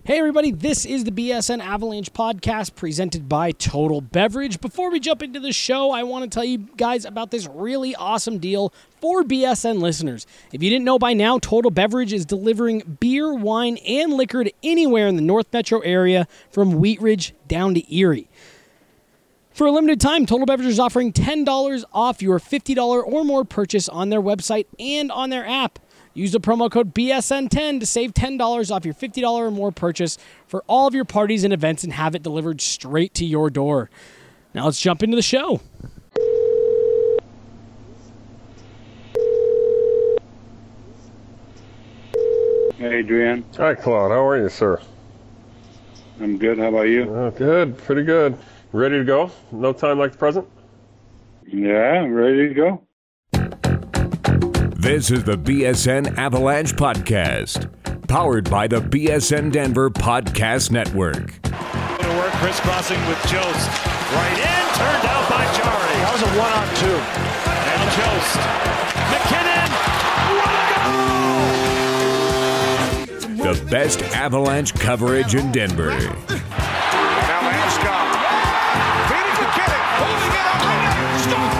Hey everybody, this is the BSN Avalanche podcast presented by Total Beverage. Before we jump into the show, I want to tell you guys about this really awesome deal for BSN listeners. If you didn't know by now, Total Beverage is delivering beer, wine, and liquor to anywhere in the North Metro area from Wheat Ridge down to Erie. For a limited time, Total Beverage is offering $10 off your $50 or more purchase on their website and on their app. Use the promo code BSN10 to save $10 off your $50 or more purchase for all of your parties and events and have it delivered straight to your door. Now let's jump into the show. Hey, Adrian. Hi, Claude. How are you, sir? I'm good. How about you? Good. Pretty good. Ready to go? No time like the present? Yeah, I'm ready to go. This is the BSN Avalanche Podcast, powered by the BSN Denver Podcast Network. To work, crisscrossing with Jost. Right in, turned out by Jari. That was a 1-on-2. And Jost. McKinnon. What a goal! The best Avalanche coverage in Denver. Now Landeskog. Feeding McKinnon. Holding it up. Score!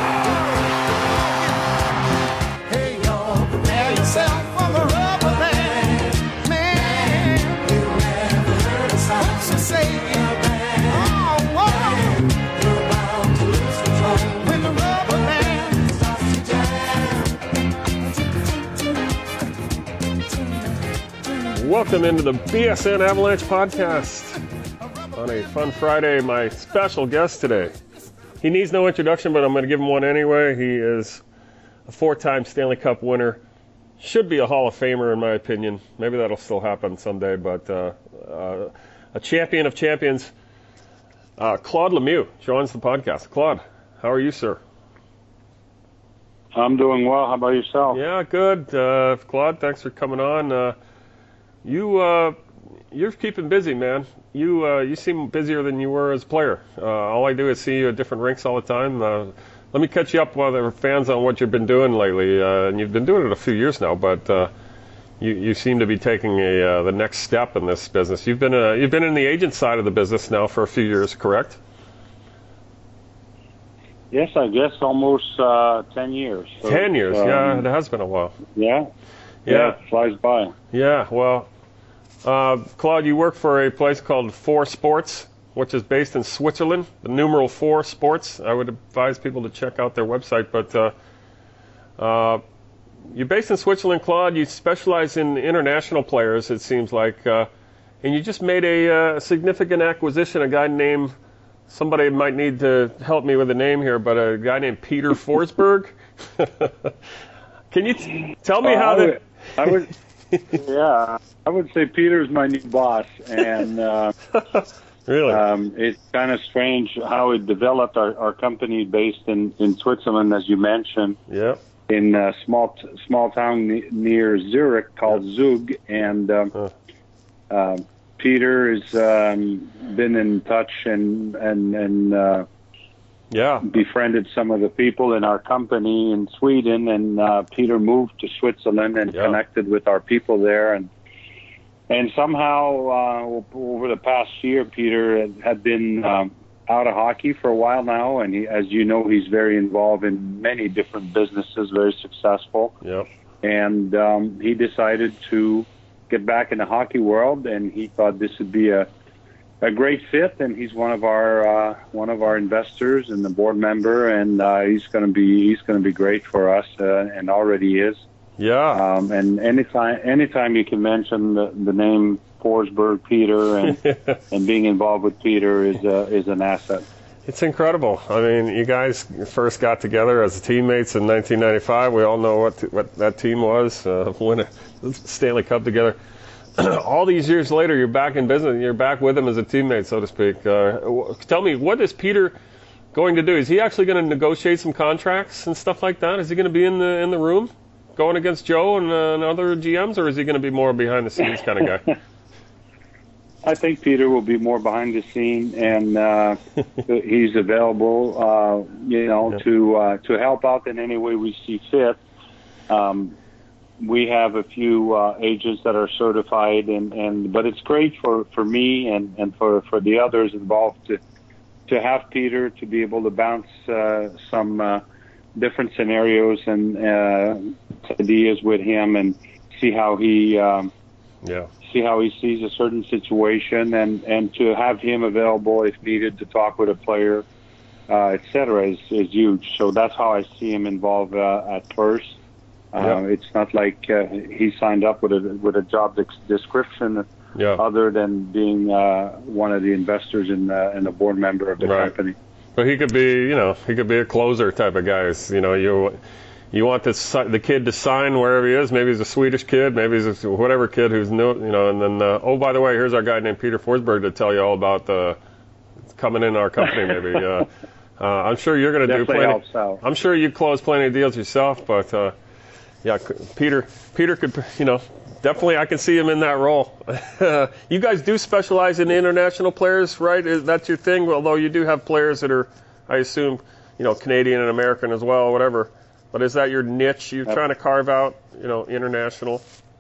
Welcome into the BSN Avalanche Podcast. On a fun Friday, my special guest today. He needs no introduction, but I'm going to give him one anyway. He is a 4-time Stanley Cup winner. Should be a Hall of Famer, in my opinion. Maybe that'll still happen someday, but a champion of champions. Claude Lemieux joins the podcast. Claude, how are you, sir? I'm doing well. How about yourself? Yeah, good. Claude, thanks for coming on. You're keeping busy, man. You seem busier than you were as a player. All I do is see you at different rinks all the time. Let me catch you up while there are fans on what you've been doing lately. And you've been doing it a few years now, but you seem to be taking the next step in this business. You've been in the agent side of the business now for a few years, correct? Yes, I guess almost 10 years. So 10 years, yeah, it has been a while. Yeah, it flies by. Yeah, well, Claude, you work for a place called 4 Sports, which is based in Switzerland, the numeral 4 Sports. I would advise people to check out their website. But you're based in Switzerland, Claude. You specialize in international players, it seems like. And you just made a significant acquisition, a guy named, somebody might need to help me with the name here, but a guy named Peter Forsberg. Can you tell me how that... I would, yeah, I would say Peter's my new boss, and really, it's kind of strange how it developed. Our company based in Switzerland, as you mentioned, in a small town near Zurich called Zug, and Peter has been in touch and befriended some of the people in our company in Sweden, and Peter moved to Switzerland and connected with our people there, and somehow over the past year, Peter had been out of hockey for a while now, and as you know, he's very involved in many different businesses, very successful. Yep. And he decided to get back in the hockey world, and he thought this would be a great fit, and he's one of our investors and the board member, and he's going to be great for us, and already is. Yeah. And anytime you can mention the name Forsberg, Peter, and being involved with Peter is an asset. It's incredible. I mean, you guys first got together as teammates in 1995. We all know what that team was, win a Stanley Cup together. All these years later, you're back in business. You're back with him as a teammate, so to speak. Tell me, what is Peter going to do? Is he actually going to negotiate some contracts and stuff like that? Is he going to be in the room going against Joe and other GMs, or is he going to be more behind the scenes kind of guy? I think Peter will be more behind the scene, and he's available, to help out in any way we see fit. we have a few agents that are certified, but it's great for me and for the others involved to have Peter to be able to bounce some different scenarios and ideas with him and see how he sees a certain situation, and to have him available if needed to talk with a player, etc. is huge. So that's how I see him involved at first. It's not like he signed up with a job description other than being one of the investors in a board member of the company. But he could be, he could be a closer type of guy. You want the kid to sign wherever he is. Maybe he's a Swedish kid, maybe he's whatever kid who's new, and then oh, by the way, here's our guy named Peter Forsberg to tell you all about coming in our company. Maybe I'm sure you're going to do plenty. Helps out. I'm sure you close plenty of deals yourself, but Peter could, definitely I can see him in that role. You guys do specialize in international players, right? That's your thing. Although you do have players that are, I assume, Canadian and American as well, whatever. But is that your niche? You're trying to carve out, international?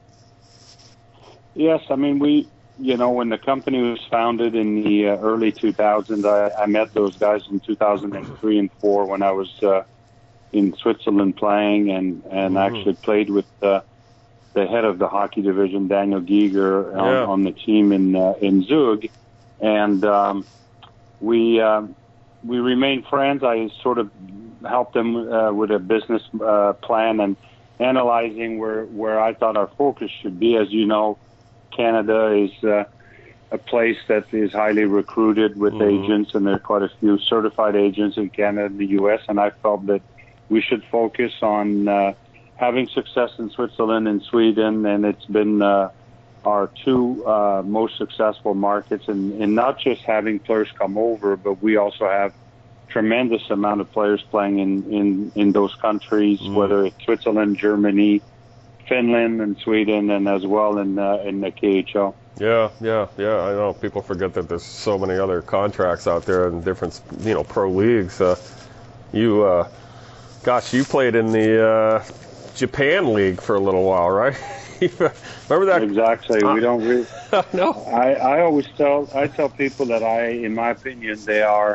Yes, I mean when the company was founded in the early 2000s, I met those guys in 2003 and 4 when I was in Switzerland playing and actually played with the head of the hockey division, Daniel Giger, on the team in Zug, and we remained friends. I sort of helped them with a business plan and analyzing where I thought our focus should be. As you know, Canada is a place that is highly recruited with agents, and there are quite a few certified agents in Canada and the U.S., and I felt that we should focus on having success in Switzerland and Sweden, and it's been our two most successful markets, and not just having players come over, but we also have tremendous amount of players playing in those countries, whether it's Switzerland, Germany, Finland, and Sweden, and as well in the KHL. Yeah. I know people forget that there's so many other contracts out there in different, pro leagues. You played in the Japan League for a little while, right? Remember that? Exactly. We don't really. No. I tell people that in my opinion, they are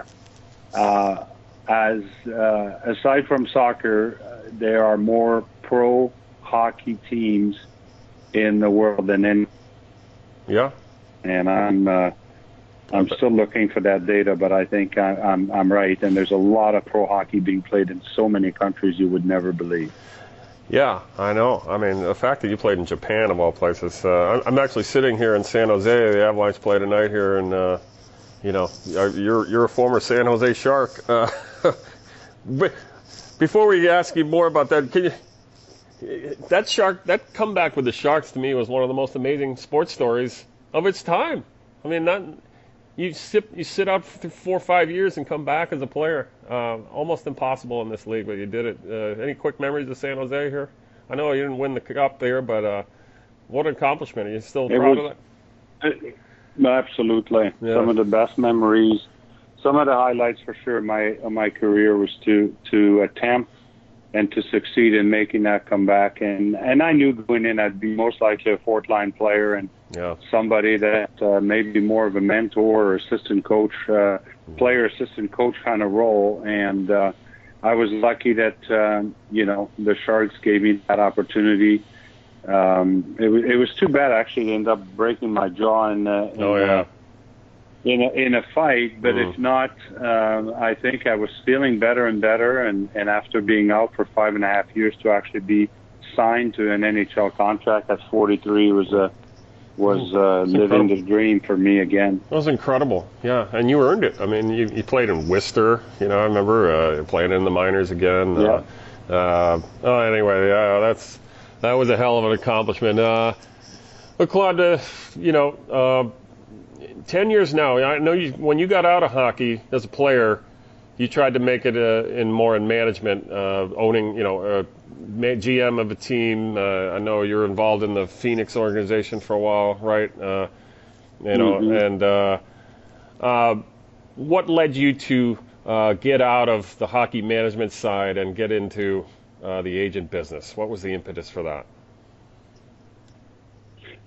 aside from soccer, there are more pro hockey teams in the world than any. Yeah. And I'm still looking for that data, but I think I'm right. And there's a lot of pro hockey being played in so many countries you would never believe. Yeah, I know. I mean, the fact that you played in Japan, of all places. I'm actually sitting here in San Jose. The Avalanche play tonight here, and you're a former San Jose Shark. But before we ask you more about that, that comeback with the Sharks to me was one of the most amazing sports stories of its time. I mean, you sit out for 4 or 5 years and come back as a player. Almost impossible in this league, but you did it. Any quick memories of San Jose here? I know you didn't win the cup there, but what an accomplishment. Are you still proud of that? Absolutely. Yeah. Some of the best memories, some of the highlights for sure of my career was to attempt and to succeed in making that comeback. And I knew going in I'd be most likely a fourth-line player and somebody that maybe more of a mentor or assistant coach, player-assistant coach kind of role. And I was lucky that, the Sharks gave me that opportunity. It was too bad, actually, to end up breaking my jaw in a fight, but if not, I think I was feeling better and better, and after being out for 5.5 years to actually be signed to an NHL contract at 43 was living the dream for me again. That was incredible, yeah, and you earned it. I mean, you played in Worcester, I remember playing in the minors again. Anyway, that was a hell of an accomplishment. But Claude, 10 years now. I know when you got out of hockey as a player, you tried to make it more in management, owning, GM of a team. I know you're involved in the Phoenix organization for a while, right? And what led you to get out of the hockey management side and get into the agent business? What was the impetus for that?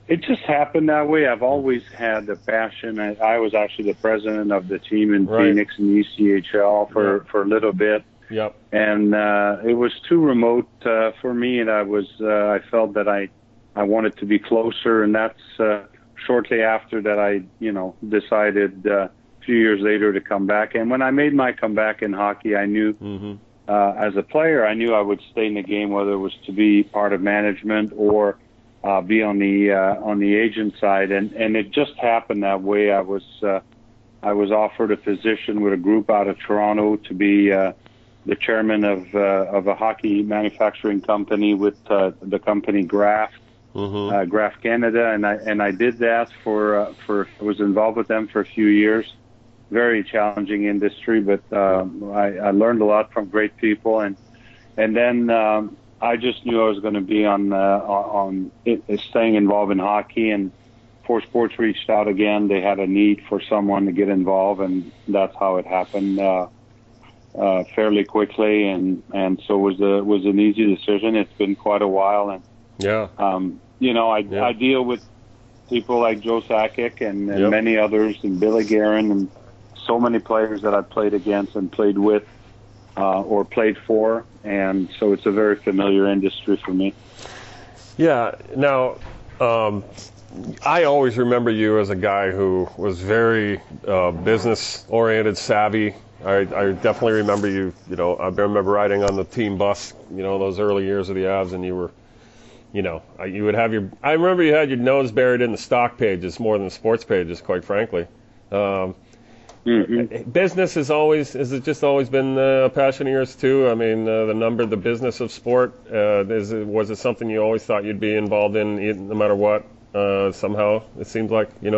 It just happened that way. I've always had the passion. I was actually the president of the team in Phoenix in the ECHL for a little bit. Yep. And it was too remote for me, and I felt that I wanted to be closer, and that's shortly after that I decided a few years later to come back. And when I made my comeback in hockey, I knew as a player, I knew I would stay in the game, whether it was to be part of management or be on the agent side, and it just happened that way. I was offered a position with a group out of Toronto to be the chairman of a hockey manufacturing company with the company Graf Canada, and I did that for I was involved with them for a few years. Very challenging industry, but I learned a lot from great people, and then. I just knew I was going to be on staying involved in hockey, and Four Sports reached out again. They had a need for someone to get involved, and that's how it happened fairly quickly, and so it was an easy decision. It's been quite a while, and I deal with people like Joe Sakic and many others, and Billy Guerin, and so many players that I've played against and played with. Or played for, and so it's a very familiar industry for me. Yeah. Now, I always remember you as a guy who was very business-oriented, savvy. I definitely remember you. I remember riding on the team bus. Those early years of the Avs, and you were, you would have your. I remember you had your nose buried in the stock pages more than the sports pages, quite frankly. Business has it just always been a passion of yours too? I mean, the business of sport, was it something you always thought you'd be involved in no matter what? Somehow it seems like, I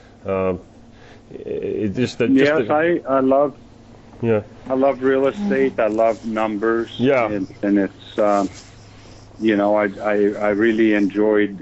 love real estate. I love numbers. Yeah. And it's, I really enjoyed,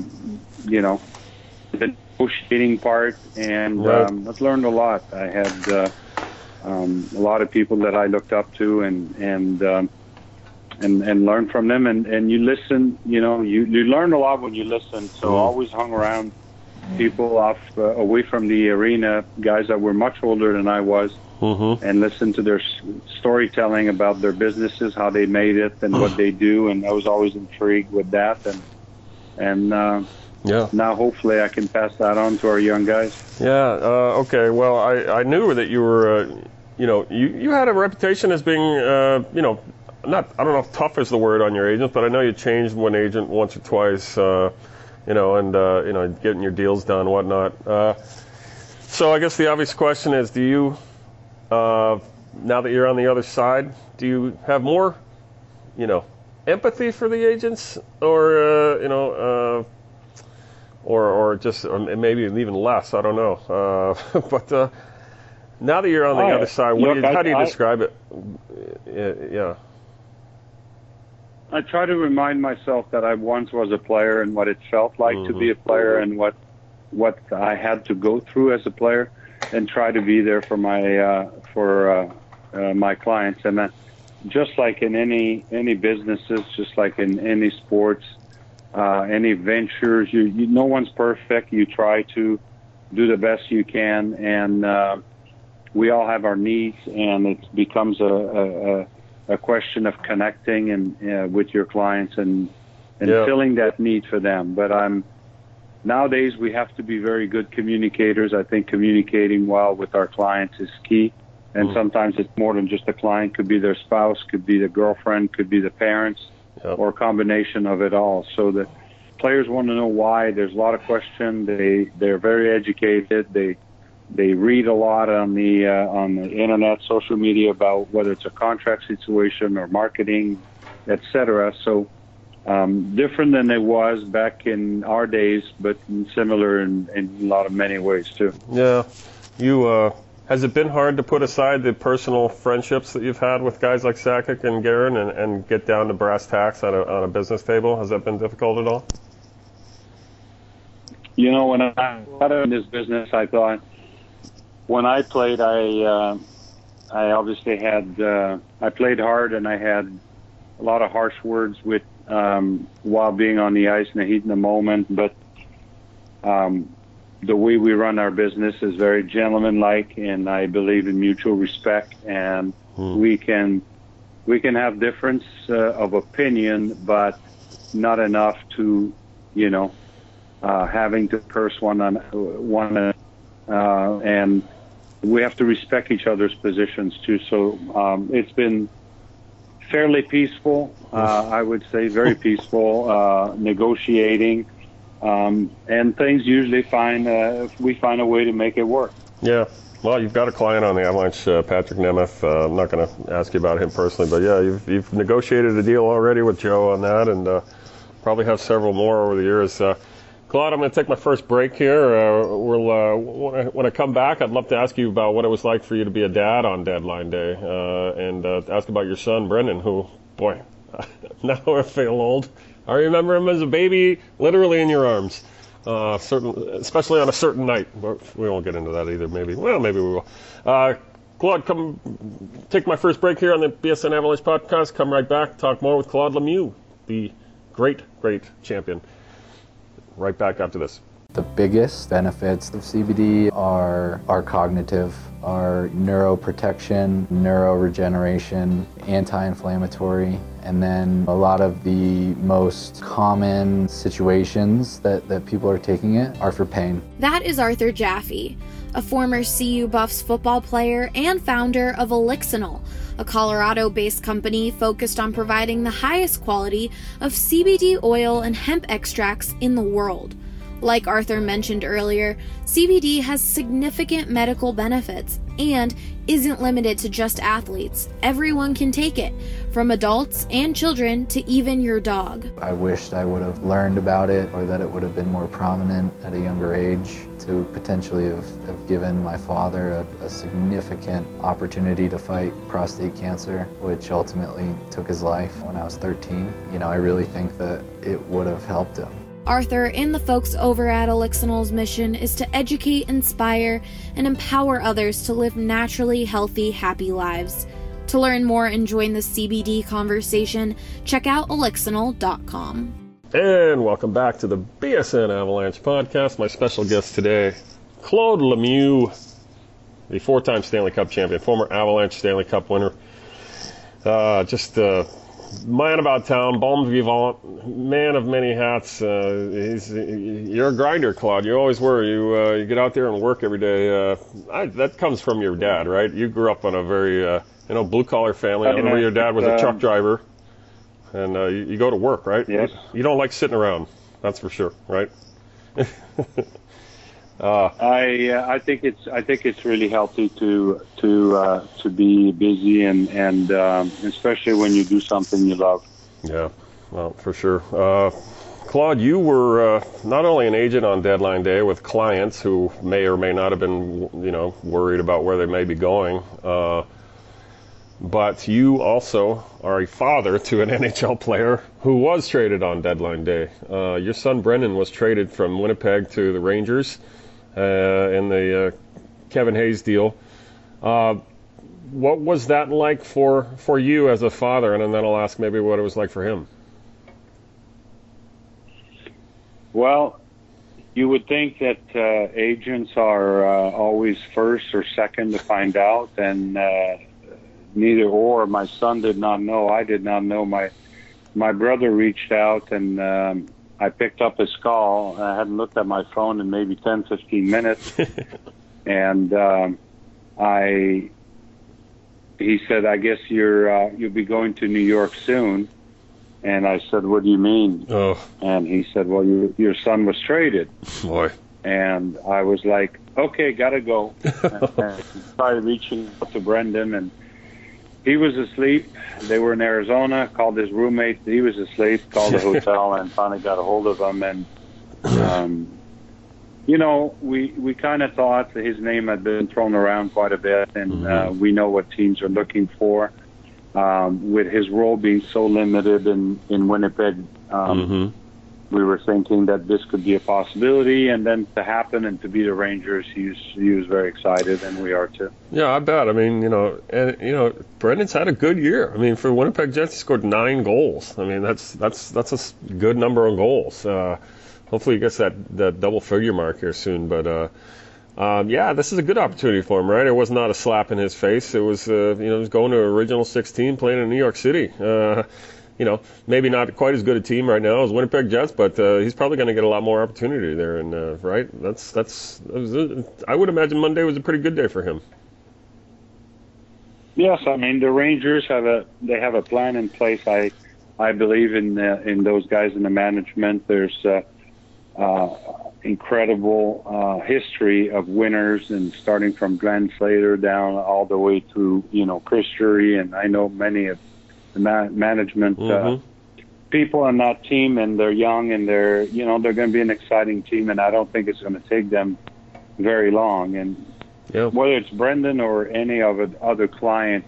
the negotiating part, and I've learned a lot. I had a lot of people that I looked up to, and learned from them, and you listen. You learn a lot when you listen. So I always hung around people away from the arena, guys that were much older than I was, and listened to their storytelling about their businesses, how they made it, and what they do, and I was always intrigued with that, and now hopefully I can pass that on to our young guys. Yeah. Okay. Well, I knew that you were, you had a reputation as being, I don't know if tough is the word on your agents, but I know you changed one agent once or twice, and getting your deals done and whatnot. So I guess the obvious question is, do you, now that you're on the other side, do you have more, empathy for the agents, or, or maybe even less? I don't know. But now that you're on the other side, how do you describe it? Yeah. I try to remind myself that I once was a player and what it felt like to be a player, and what I had to go through as a player, and try to be there for my clients. And just like in any businesses, just like in any sports, any ventures, no one's perfect. You try to do the best you can, and we all have our needs, and it becomes a question of connecting and with your clients and filling that need for them. But nowadays we have to be very good communicators. I think communicating well with our clients is key. And sometimes it's more than just a client. Could be their spouse, could be the girlfriend, could be the parents, or a combination of it all. So the players want to know why. There's a lot of questions. They're very educated. They read a lot on the internet, social media, about whether it's a contract situation or marketing, etc. So different than it was back in our days, but similar in many ways too. Yeah. Has it been hard to put aside the personal friendships that you've had with guys like Sakic and Guerin and get down to brass tacks on a business table? Has that been difficult at all? When I got in this business, I thought when I played, I obviously had I played hard, and I had a lot of harsh words while being on the ice in the heat in the moment. But the way we run our business is very gentlemanlike, and I believe in mutual respect. And we can have difference of opinion, but not enough to, having to curse one, and we have to respect each other's positions too. So it's been fairly peaceful, I would say, very peaceful, negotiating, and things usually we find a way to make it work. Yeah. Well, you've got a client on the Avalanche, Patrick Nemeth. I'm not going to ask you about him personally, but yeah, you've negotiated a deal already with Joe on that, and probably have several more over the years. Claude, I'm going to take my first break here. When I come back, I'd love to ask you about what it was like for you to be a dad on Deadline Day, and ask about your son, Brendan, who, boy, now I feel old. I remember him as a baby, literally in your arms, especially on a certain night. We won't get into that either, maybe. Well, maybe we will. Claude, come take my first break here on the BSN Avalanche podcast. Come right back, talk more with Claude Lemieux, the great champion. Right back after this. The biggest benefits of CBD are cognitive, are neuroprotection, neuroregeneration, anti-inflammatory, and then a lot of the most common situations that people are taking it are for pain. That is Arthur Jaffe, a former CU Buffs football player and founder of Elixinol, a Colorado-based company focused on providing the highest quality of CBD oil and hemp extracts in the world. Like Arthur mentioned earlier, CBD has significant medical benefits and isn't limited to just athletes. Everyone can take it, from adults and children to even your dog. I wished I would have learned about it, or that it would have been more prominent at a younger age, to potentially have given my father a significant opportunity to fight prostate cancer, which ultimately took his life when I was 13. I really think that it would have helped him. Arthur and the folks over at Elixinol's mission is to educate, inspire, and empower others to live naturally healthy, happy lives. To learn more and join the CBD conversation, check out elixinol.com. And welcome back to the BSN Avalanche podcast. My special guest today, Claude Lemieux, the four-time Stanley Cup champion, former Avalanche Stanley Cup winner. Man about town, bon vivant, man of many hats. You're a grinder, Claude. You always were. You get out there and work every day. That comes from your dad, right? You grew up in a very blue-collar family. I remember your dad was a truck driver, and you go to work, right? Yes. You don't like sitting around, that's for sure, right? I think it's really healthy to be busy and especially when you do something you love. Yeah, well, for sure. Claude, you were not only an agent on Deadline Day with clients who may or may not have been, worried about where they may be going, but you also are a father to an NHL player who was traded on Deadline Day. Your son Brendan was traded from Winnipeg to the Rangers in the Kevin Hayes deal. What was that like for you as a father? And then I'll ask maybe what it was like for him. Well, you would think that agents are always first or second to find out, and neither or. My son did not know. I did not know. My brother reached out, and I picked up his call. I hadn't looked at my phone in maybe 10, 15 minutes. And he said, I guess you'll be going to New York soon. And I said, what do you mean? Oh. And he said, well, your son was traded. Boy. And I was like, okay, gotta go. And started reaching out to Brendan, and he was asleep. They were in Arizona, called his roommate. He was asleep, called the hotel, and finally got a hold of him. And, we kind of thought that his name had been thrown around quite a bit, and we know what teams are looking for. With his role being so limited in Winnipeg, we were thinking that this could be a possibility, and then to happen and to be the Rangers, he was very excited, and we are too. Yeah, I bet. I mean, Brendan's had a good year. I mean, for Winnipeg Jets, he scored 9 goals. I mean, that's a good number of goals. hopefully he gets that double figure mark here soon. But this is a good opportunity for him, right? It was not a slap in his face. It was, he was going to original 16, playing in New York City. Maybe not quite as good a team right now as Winnipeg Jets, but he's probably going to get a lot more opportunity there. And right, I would imagine Monday was a pretty good day for him. Yes, I mean the Rangers have a plan in place. I believe in those guys in the management. There's incredible history of winners, and starting from Glenn Slater down all the way to Chris Drury, and I know many of the management people on that team, and they're young, and they're going to be an exciting team, and I don't think it's going to take them very long. And whether it's Brendan or any other client,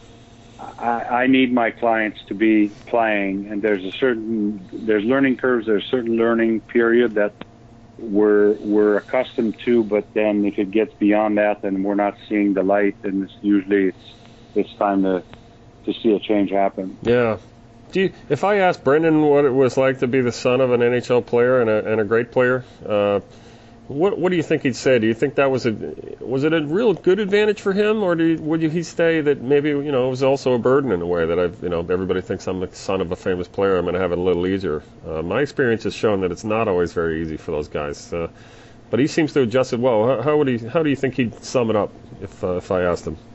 I need my clients to be playing, and there's learning curves, there's a certain learning period that we're accustomed to, but then if it gets beyond that, then we're not seeing the light, and it's time to see a change happen. Yeah. If I asked Brendan what it was like to be the son of an NHL player and a great player, what do you think he'd say? Do you think that was it a real good advantage for him, or would he say that maybe it was also a burden in a way that everybody thinks I'm the son of a famous player, I'm going to have it a little easier. My experience has shown that it's not always very easy for those guys. But he seems to adjust it well. How do you think he'd sum it up if I asked him?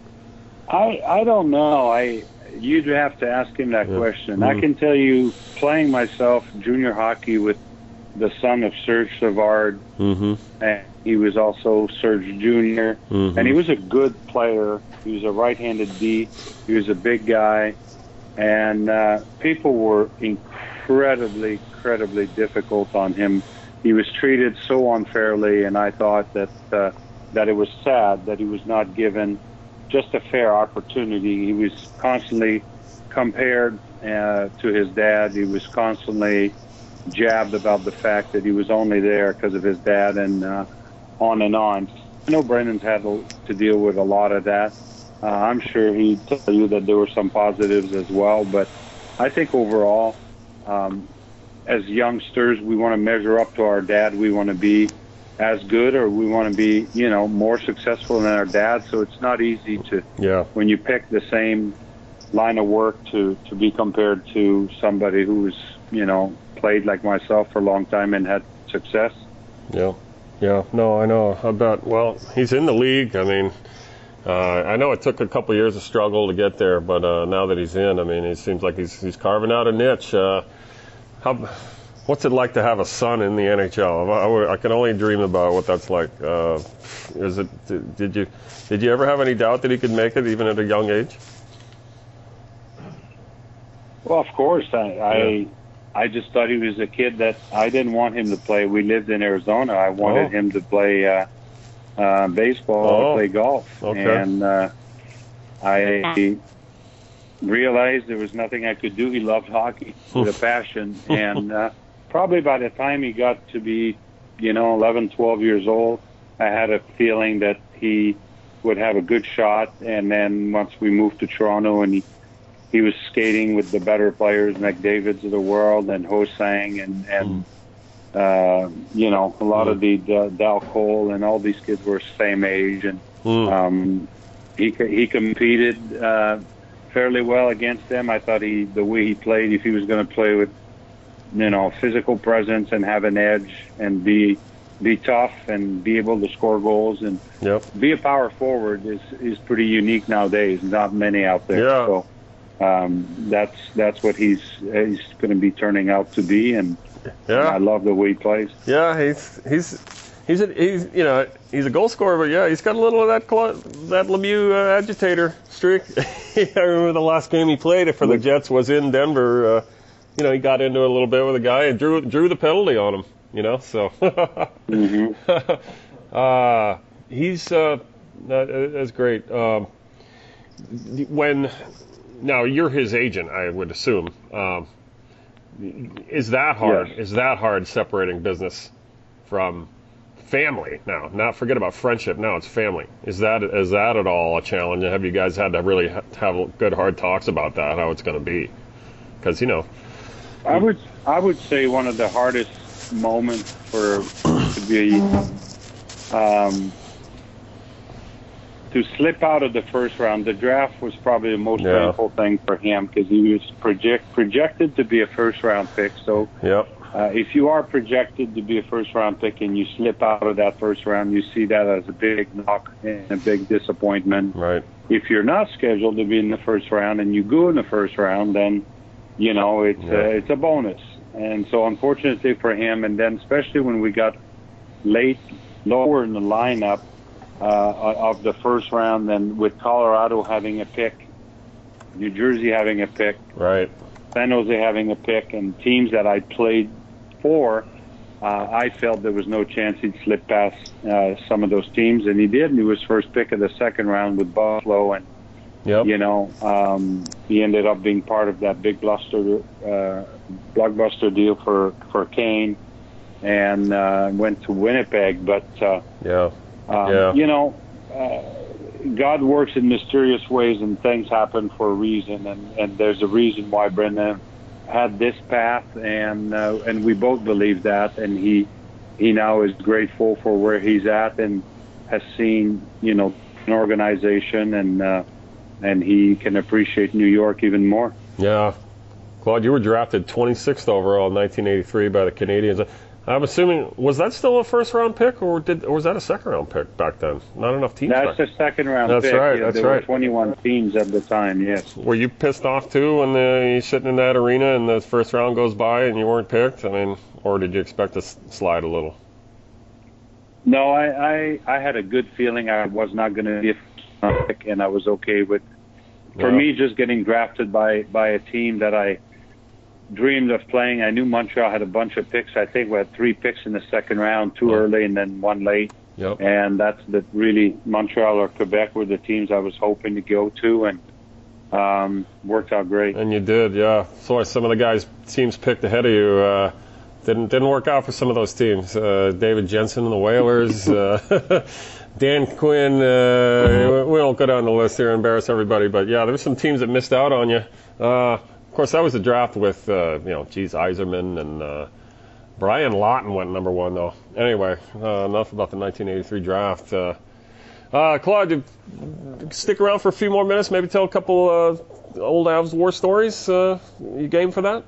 I don't know. You'd have to ask him that question. I can tell you, playing myself junior hockey with the son of Serge Savard, and he was also Serge Jr., and he was a good player. He was a right-handed D. He was a big guy, and people were incredibly difficult on him. He was treated so unfairly, and I thought that it was sad that he was not given just a fair opportunity. He was constantly compared to his dad. He was constantly jabbed about the fact that he was only there because of his dad, and on and on. I know Brendan's had to deal with a lot of that. I'm sure he'd tell you that there were some positives as well, but I think overall, as youngsters, we want to measure up to our dad. We want to be as good, or we want to be, more successful than our dad. So it's not easy when you pick the same line of work to be compared to somebody who's, played like myself for a long time and had success. Yeah. No, I know. He's in the league. I mean, I know it took a couple of years of struggle to get there, but now that he's in, I mean, it seems like he's carving out a niche. What's it like to have a son in the NHL? I can only dream about what that's like. Did you ever have any doubt that he could make it even at a young age? Well, of course. I just thought he was a kid that I didn't want him to play. We lived in Arizona. I wanted him to play baseball, play golf. Okay. And I realized there was nothing I could do. He loved hockey with a passion. And probably by the time he got to be, 11, 12 years old, I had a feeling that he would have a good shot. And then once we moved to Toronto, and he was skating with the better players, McDavid's of the world, and Ho-Sang, and a lot of the Dal Cole, and all these kids were same age, and he competed fairly well against them. I thought the way he played, if he was going to play with physical presence and have an edge and be tough and be able to score goals and be a power forward is pretty unique nowadays. Not many out there. Yeah. So that's what he's going to be turning out to be, and I love the way he plays. Yeah, he's a goal scorer, but he's got a little of that Lemieux agitator streak. I remember the last game he played for the Jets was in Denver. He got into it a little bit with a guy and drew the penalty on him. So he's that's great. Now you're his agent, I would assume. Is that hard? Yes. Is that hard separating business from family now? Not forget about friendship. Now it's family. Is that at all a challenge? Have you guys had to really have good hard talks about that? How it's going to be? Because I would say one of the hardest moment to be to slip out of the first round. The draft was probably the most painful thing for him because he was projected to be a first-round pick. So if you are projected to be a first-round pick and you slip out of that first round, you see that as a big knock and a big disappointment. Right. If you're not scheduled to be in the first round and you go in the first round, then, you know, it's a bonus. And so unfortunately for him, and then especially when we got lower in the lineup, of the first round, then with Colorado having a pick, New Jersey having a pick, right, San Jose having a pick, and teams that I played for, I felt there was no chance he'd slip past some of those teams, and he did. And he was first pick of the second round with Buffalo, and you know, he ended up being part of that big blockbuster deal for Kane, and went to Winnipeg, but. You know, God works in mysterious ways, and things happen for a reason, and there's a reason why Brendan had this path, and we both believe that, and he now is grateful for where he's at and has seen, you know, an organization, and he can appreciate New York even more. Yeah. Claude, you were drafted 26th overall in 1983 by the Canadiens. I'm assuming, was that still a first-round pick, or was that a second-round pick back then? Not enough teams. That's a second-round pick. That's right. Yeah, there were 21 teams at the time. Yes. Were you pissed off too when you're sitting in that arena and the first round goes by and you weren't picked? I mean, or did you expect to slide a little? No, I had a good feeling I was not going to be a first-round pick, and I was okay with. For me, just getting drafted by a team that I dreamed of playing. I knew Montreal had a bunch of picks. I think we had 3 picks in the second round, 2 early and then 1 late. And that's really Montreal or Quebec were the teams I was hoping to go to, and worked out great. And you did, yeah. So some of the teams picked ahead of you didn't work out for some of those teams. David Jensen and the Whalers, Dan Quinn. We won't go down the list here and embarrass everybody, but yeah, there were some teams that missed out on you. Of course, that was the draft with, Yzerman and Brian Lawton went number 1, though. Anyway, enough about the 1983 draft. Claude, stick around for a few more minutes, maybe tell a couple old Avs war stories. You game for that?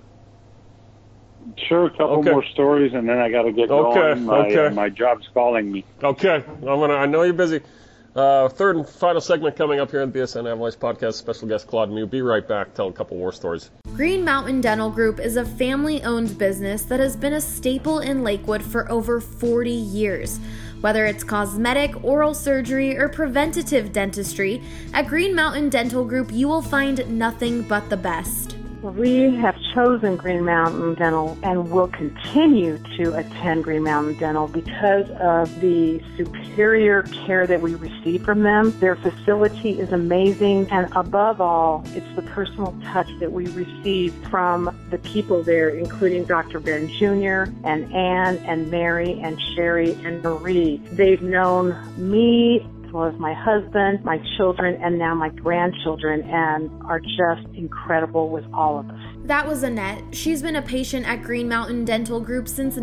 Sure, a couple more stories, and then I got to get going. My job's calling me. Okay, I know you're busy. Third and final segment coming up here on the BSN Avalanche Podcast. Special guest Claude Mew. Be right back. Tell a couple war stories. Green Mountain Dental Group is a family-owned business that has been a staple in Lakewood for over 40 years. Whether it's cosmetic, oral surgery, or preventative dentistry, at Green Mountain Dental Group you will find nothing but the best. We have chosen Green Mountain Dental and will continue to attend Green Mountain Dental because of the superior care that we receive from them. Their facility is amazing, and above all, it's the personal touch that we receive from the people there, including Dr. Ben Jr. and Ann and Mary and Sherry and Marie. They've known me as well as my husband, my children, and now my grandchildren, and are just incredible with all of us. That was Annette. She's been a patient at Green Mountain Dental Group since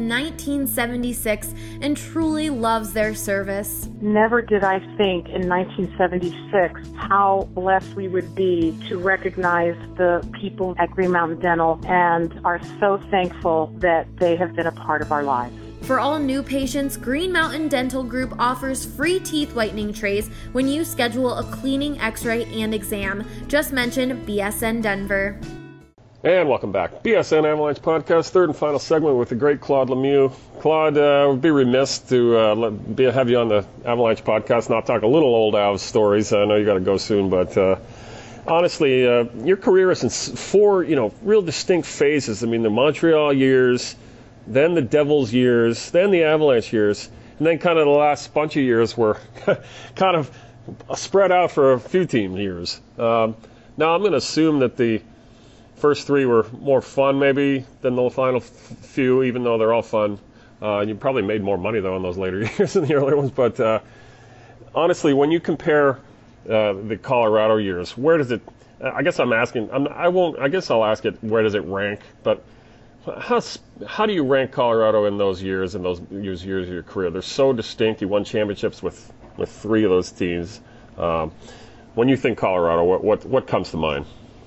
1976 and truly loves their service. Never did I think in 1976 how blessed we would be to recognize the people at Green Mountain Dental, and are so thankful that they have been a part of our lives. For all new patients, Green Mountain Dental Group offers free teeth whitening trays when you schedule a cleaning, x-ray, and exam. Just mention BSN Denver. And welcome back. BSN Avalanche Podcast, third and final segment with the great Claude Lemieux. Claude, would be remiss to have you on the Avalanche Podcast, not talk a little old Avs stories. I know you got to go soon, but honestly, your career is in 4, real distinct phases. I mean, the Montreal years, then the Devils years, then the Avalanche years, and then kind of the last bunch of years were kind of spread out for a few team years. Now, I'm going to assume that the first 3 were more fun maybe than the final few, even though they're all fun. You probably made more money, though, in those later years than the earlier ones. But honestly, when you compare the Colorado years, where does it – I guess I'm asking – I guess I'll ask it, where does it rank? But How do you rank Colorado in those years of your career? They're so distinct. You won championships with 3 of those teams. When you think Colorado, what comes to mind?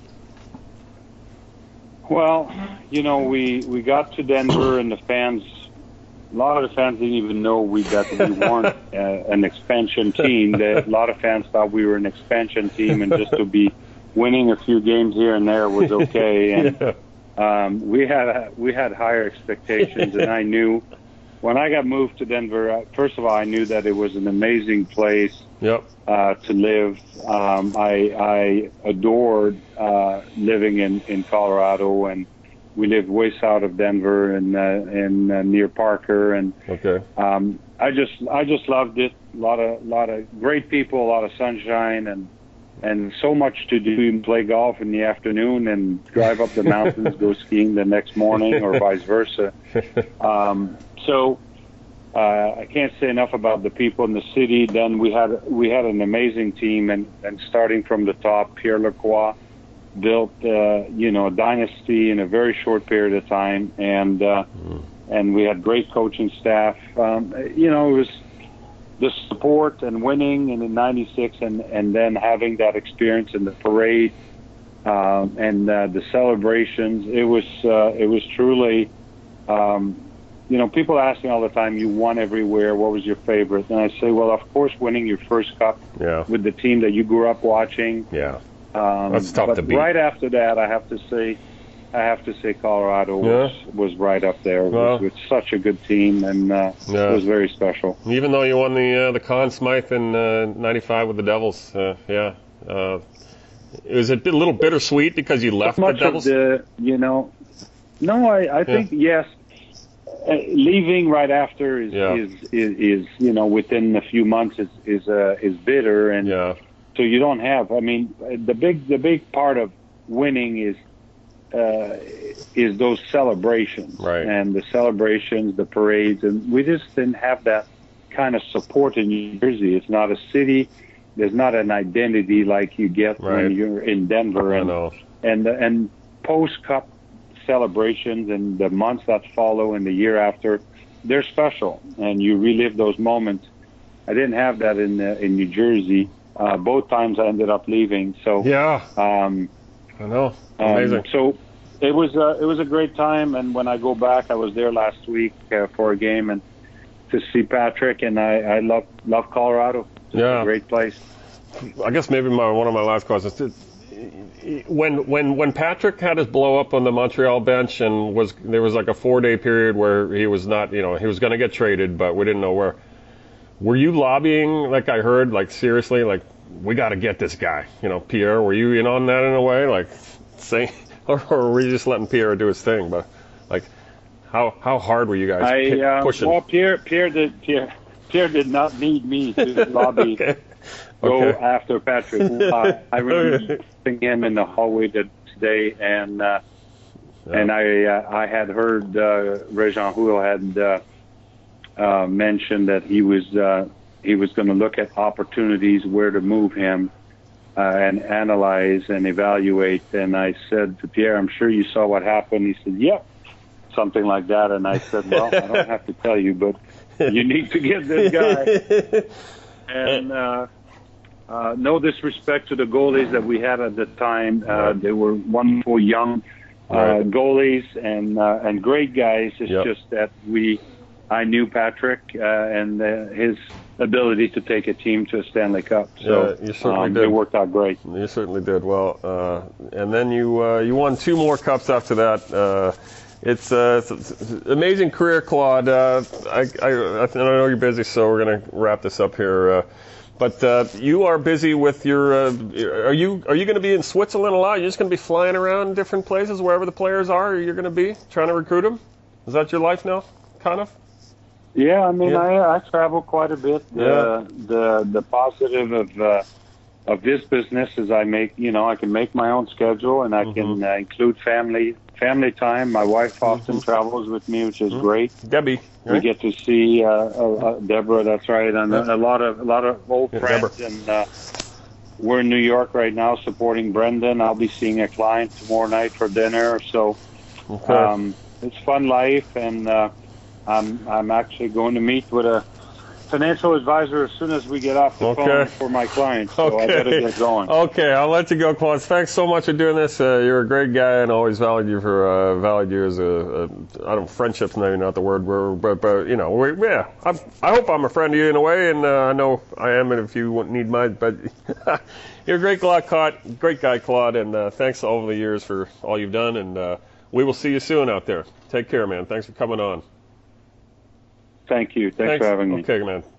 Well, we got to Denver, and a lot of the fans didn't even know that we weren't an expansion team. A lot of fans thought we were an expansion team, and just to be winning a few games here and there was okay. And we had higher expectations, and I knew when I got moved to Denver. First of all, I knew that it was an amazing place to live. I adored living in Colorado, and we lived way south of Denver and near Parker, and I just loved it. A lot of great people, a lot of sunshine, and so much to do. Even play golf in the afternoon and drive up the mountains, go skiing the next morning, or vice versa. So I can't say enough about the people in the city. Then we had an amazing team, and starting from the top, Pierre Lacroix built a dynasty in a very short period of time, and we had great coaching staff. It was the support and winning in '96, and then having that experience in the parade and the celebrations. It was truly. People ask me all the time, "You won everywhere. What was your favorite?" And I say, "Well, of course, winning your first cup with the team that you grew up watching." Yeah. That's tough to beat. Right after that, I have to say Colorado was right up there. It was such a good team, and it was very special. Even though you won the Conn Smythe in '95 with the Devils, it was a little bittersweet because you left the Devils. I think yes. Leaving right after is within a few months is bitter, and so you don't have. I mean, the big part of winning is those celebrations, right? And the celebrations, the parades, and we just didn't have that kind of support in New Jersey. It's not a city. There's not an identity like you get when you're in Denver, and post Cup celebrations and the months that follow and the year after, they're special, and you relive those moments. I didn't have that in New Jersey. Both times I ended up leaving. So I know, amazing. So it was a great time, and when I go back, I was there last week for a game and to see Patrick, and I love Colorado. It's a great place. I guess maybe one of my last questions. When Patrick had his blow up on the Montreal bench, and there was like a 4-day period where he was not, he was going to get traded, but we didn't know where. Were you lobbying, like I heard, like seriously, like we got to get this guy, Pierre? Were you in on that in a way, like saying, or were you just letting Pierre do his thing? But like, how hard were you guys pushing? Well, Pierre did not need me to lobby. Go after Patrick. I remember seeing him in the hallway today, and I had heard Réjean Houle had mentioned that he was going to look at opportunities where to move him and analyze and evaluate. And I said to Pierre, "I'm sure you saw what happened." He said, "Yep," something like that. And I said, "Well, I don't have to tell you, but you need to get this guy." And no disrespect to the goalies that we had at the time. They were wonderful young goalies and great guys. It's just that I knew Patrick and his ability to take a team to a Stanley Cup. So you certainly did. It worked out great. You certainly did. Well, and then you won 2 more cups after that. It's an amazing career, Claude. I know you're busy, so we're going to wrap this up here. But you are busy with your. Are you going to be in Switzerland a lot? You're just going to be flying around different places wherever the players are. You're going to be trying to recruit them. Is that your life now, kind of? Yeah, I mean, I travel quite a bit. The positive of this business is I can make my own schedule, and I can include family time. My wife often travels with me, which is great. Debbie, right? We get to see Deborah. That's right, and a lot of old friends. And we're in New York right now supporting Brendan. I'll be seeing a client tomorrow night for dinner. So it's fun life, and I'm actually going to meet with a financial advisor as soon as we get off the phone for my clients. So I better get going. Okay, I'll let you go, Claude. Thanks so much for doing this. You're a great guy, and always valued you as a I don't, friendship's maybe not the word, but you know, I hope I'm a friend to you in a way, and I know I am, and if you need mine, but you're a great guy, Claude, and thanks over the years for all you've done, and we will see you soon out there. Take care, man. Thanks for coming on. Thanks for having me. Okay, man.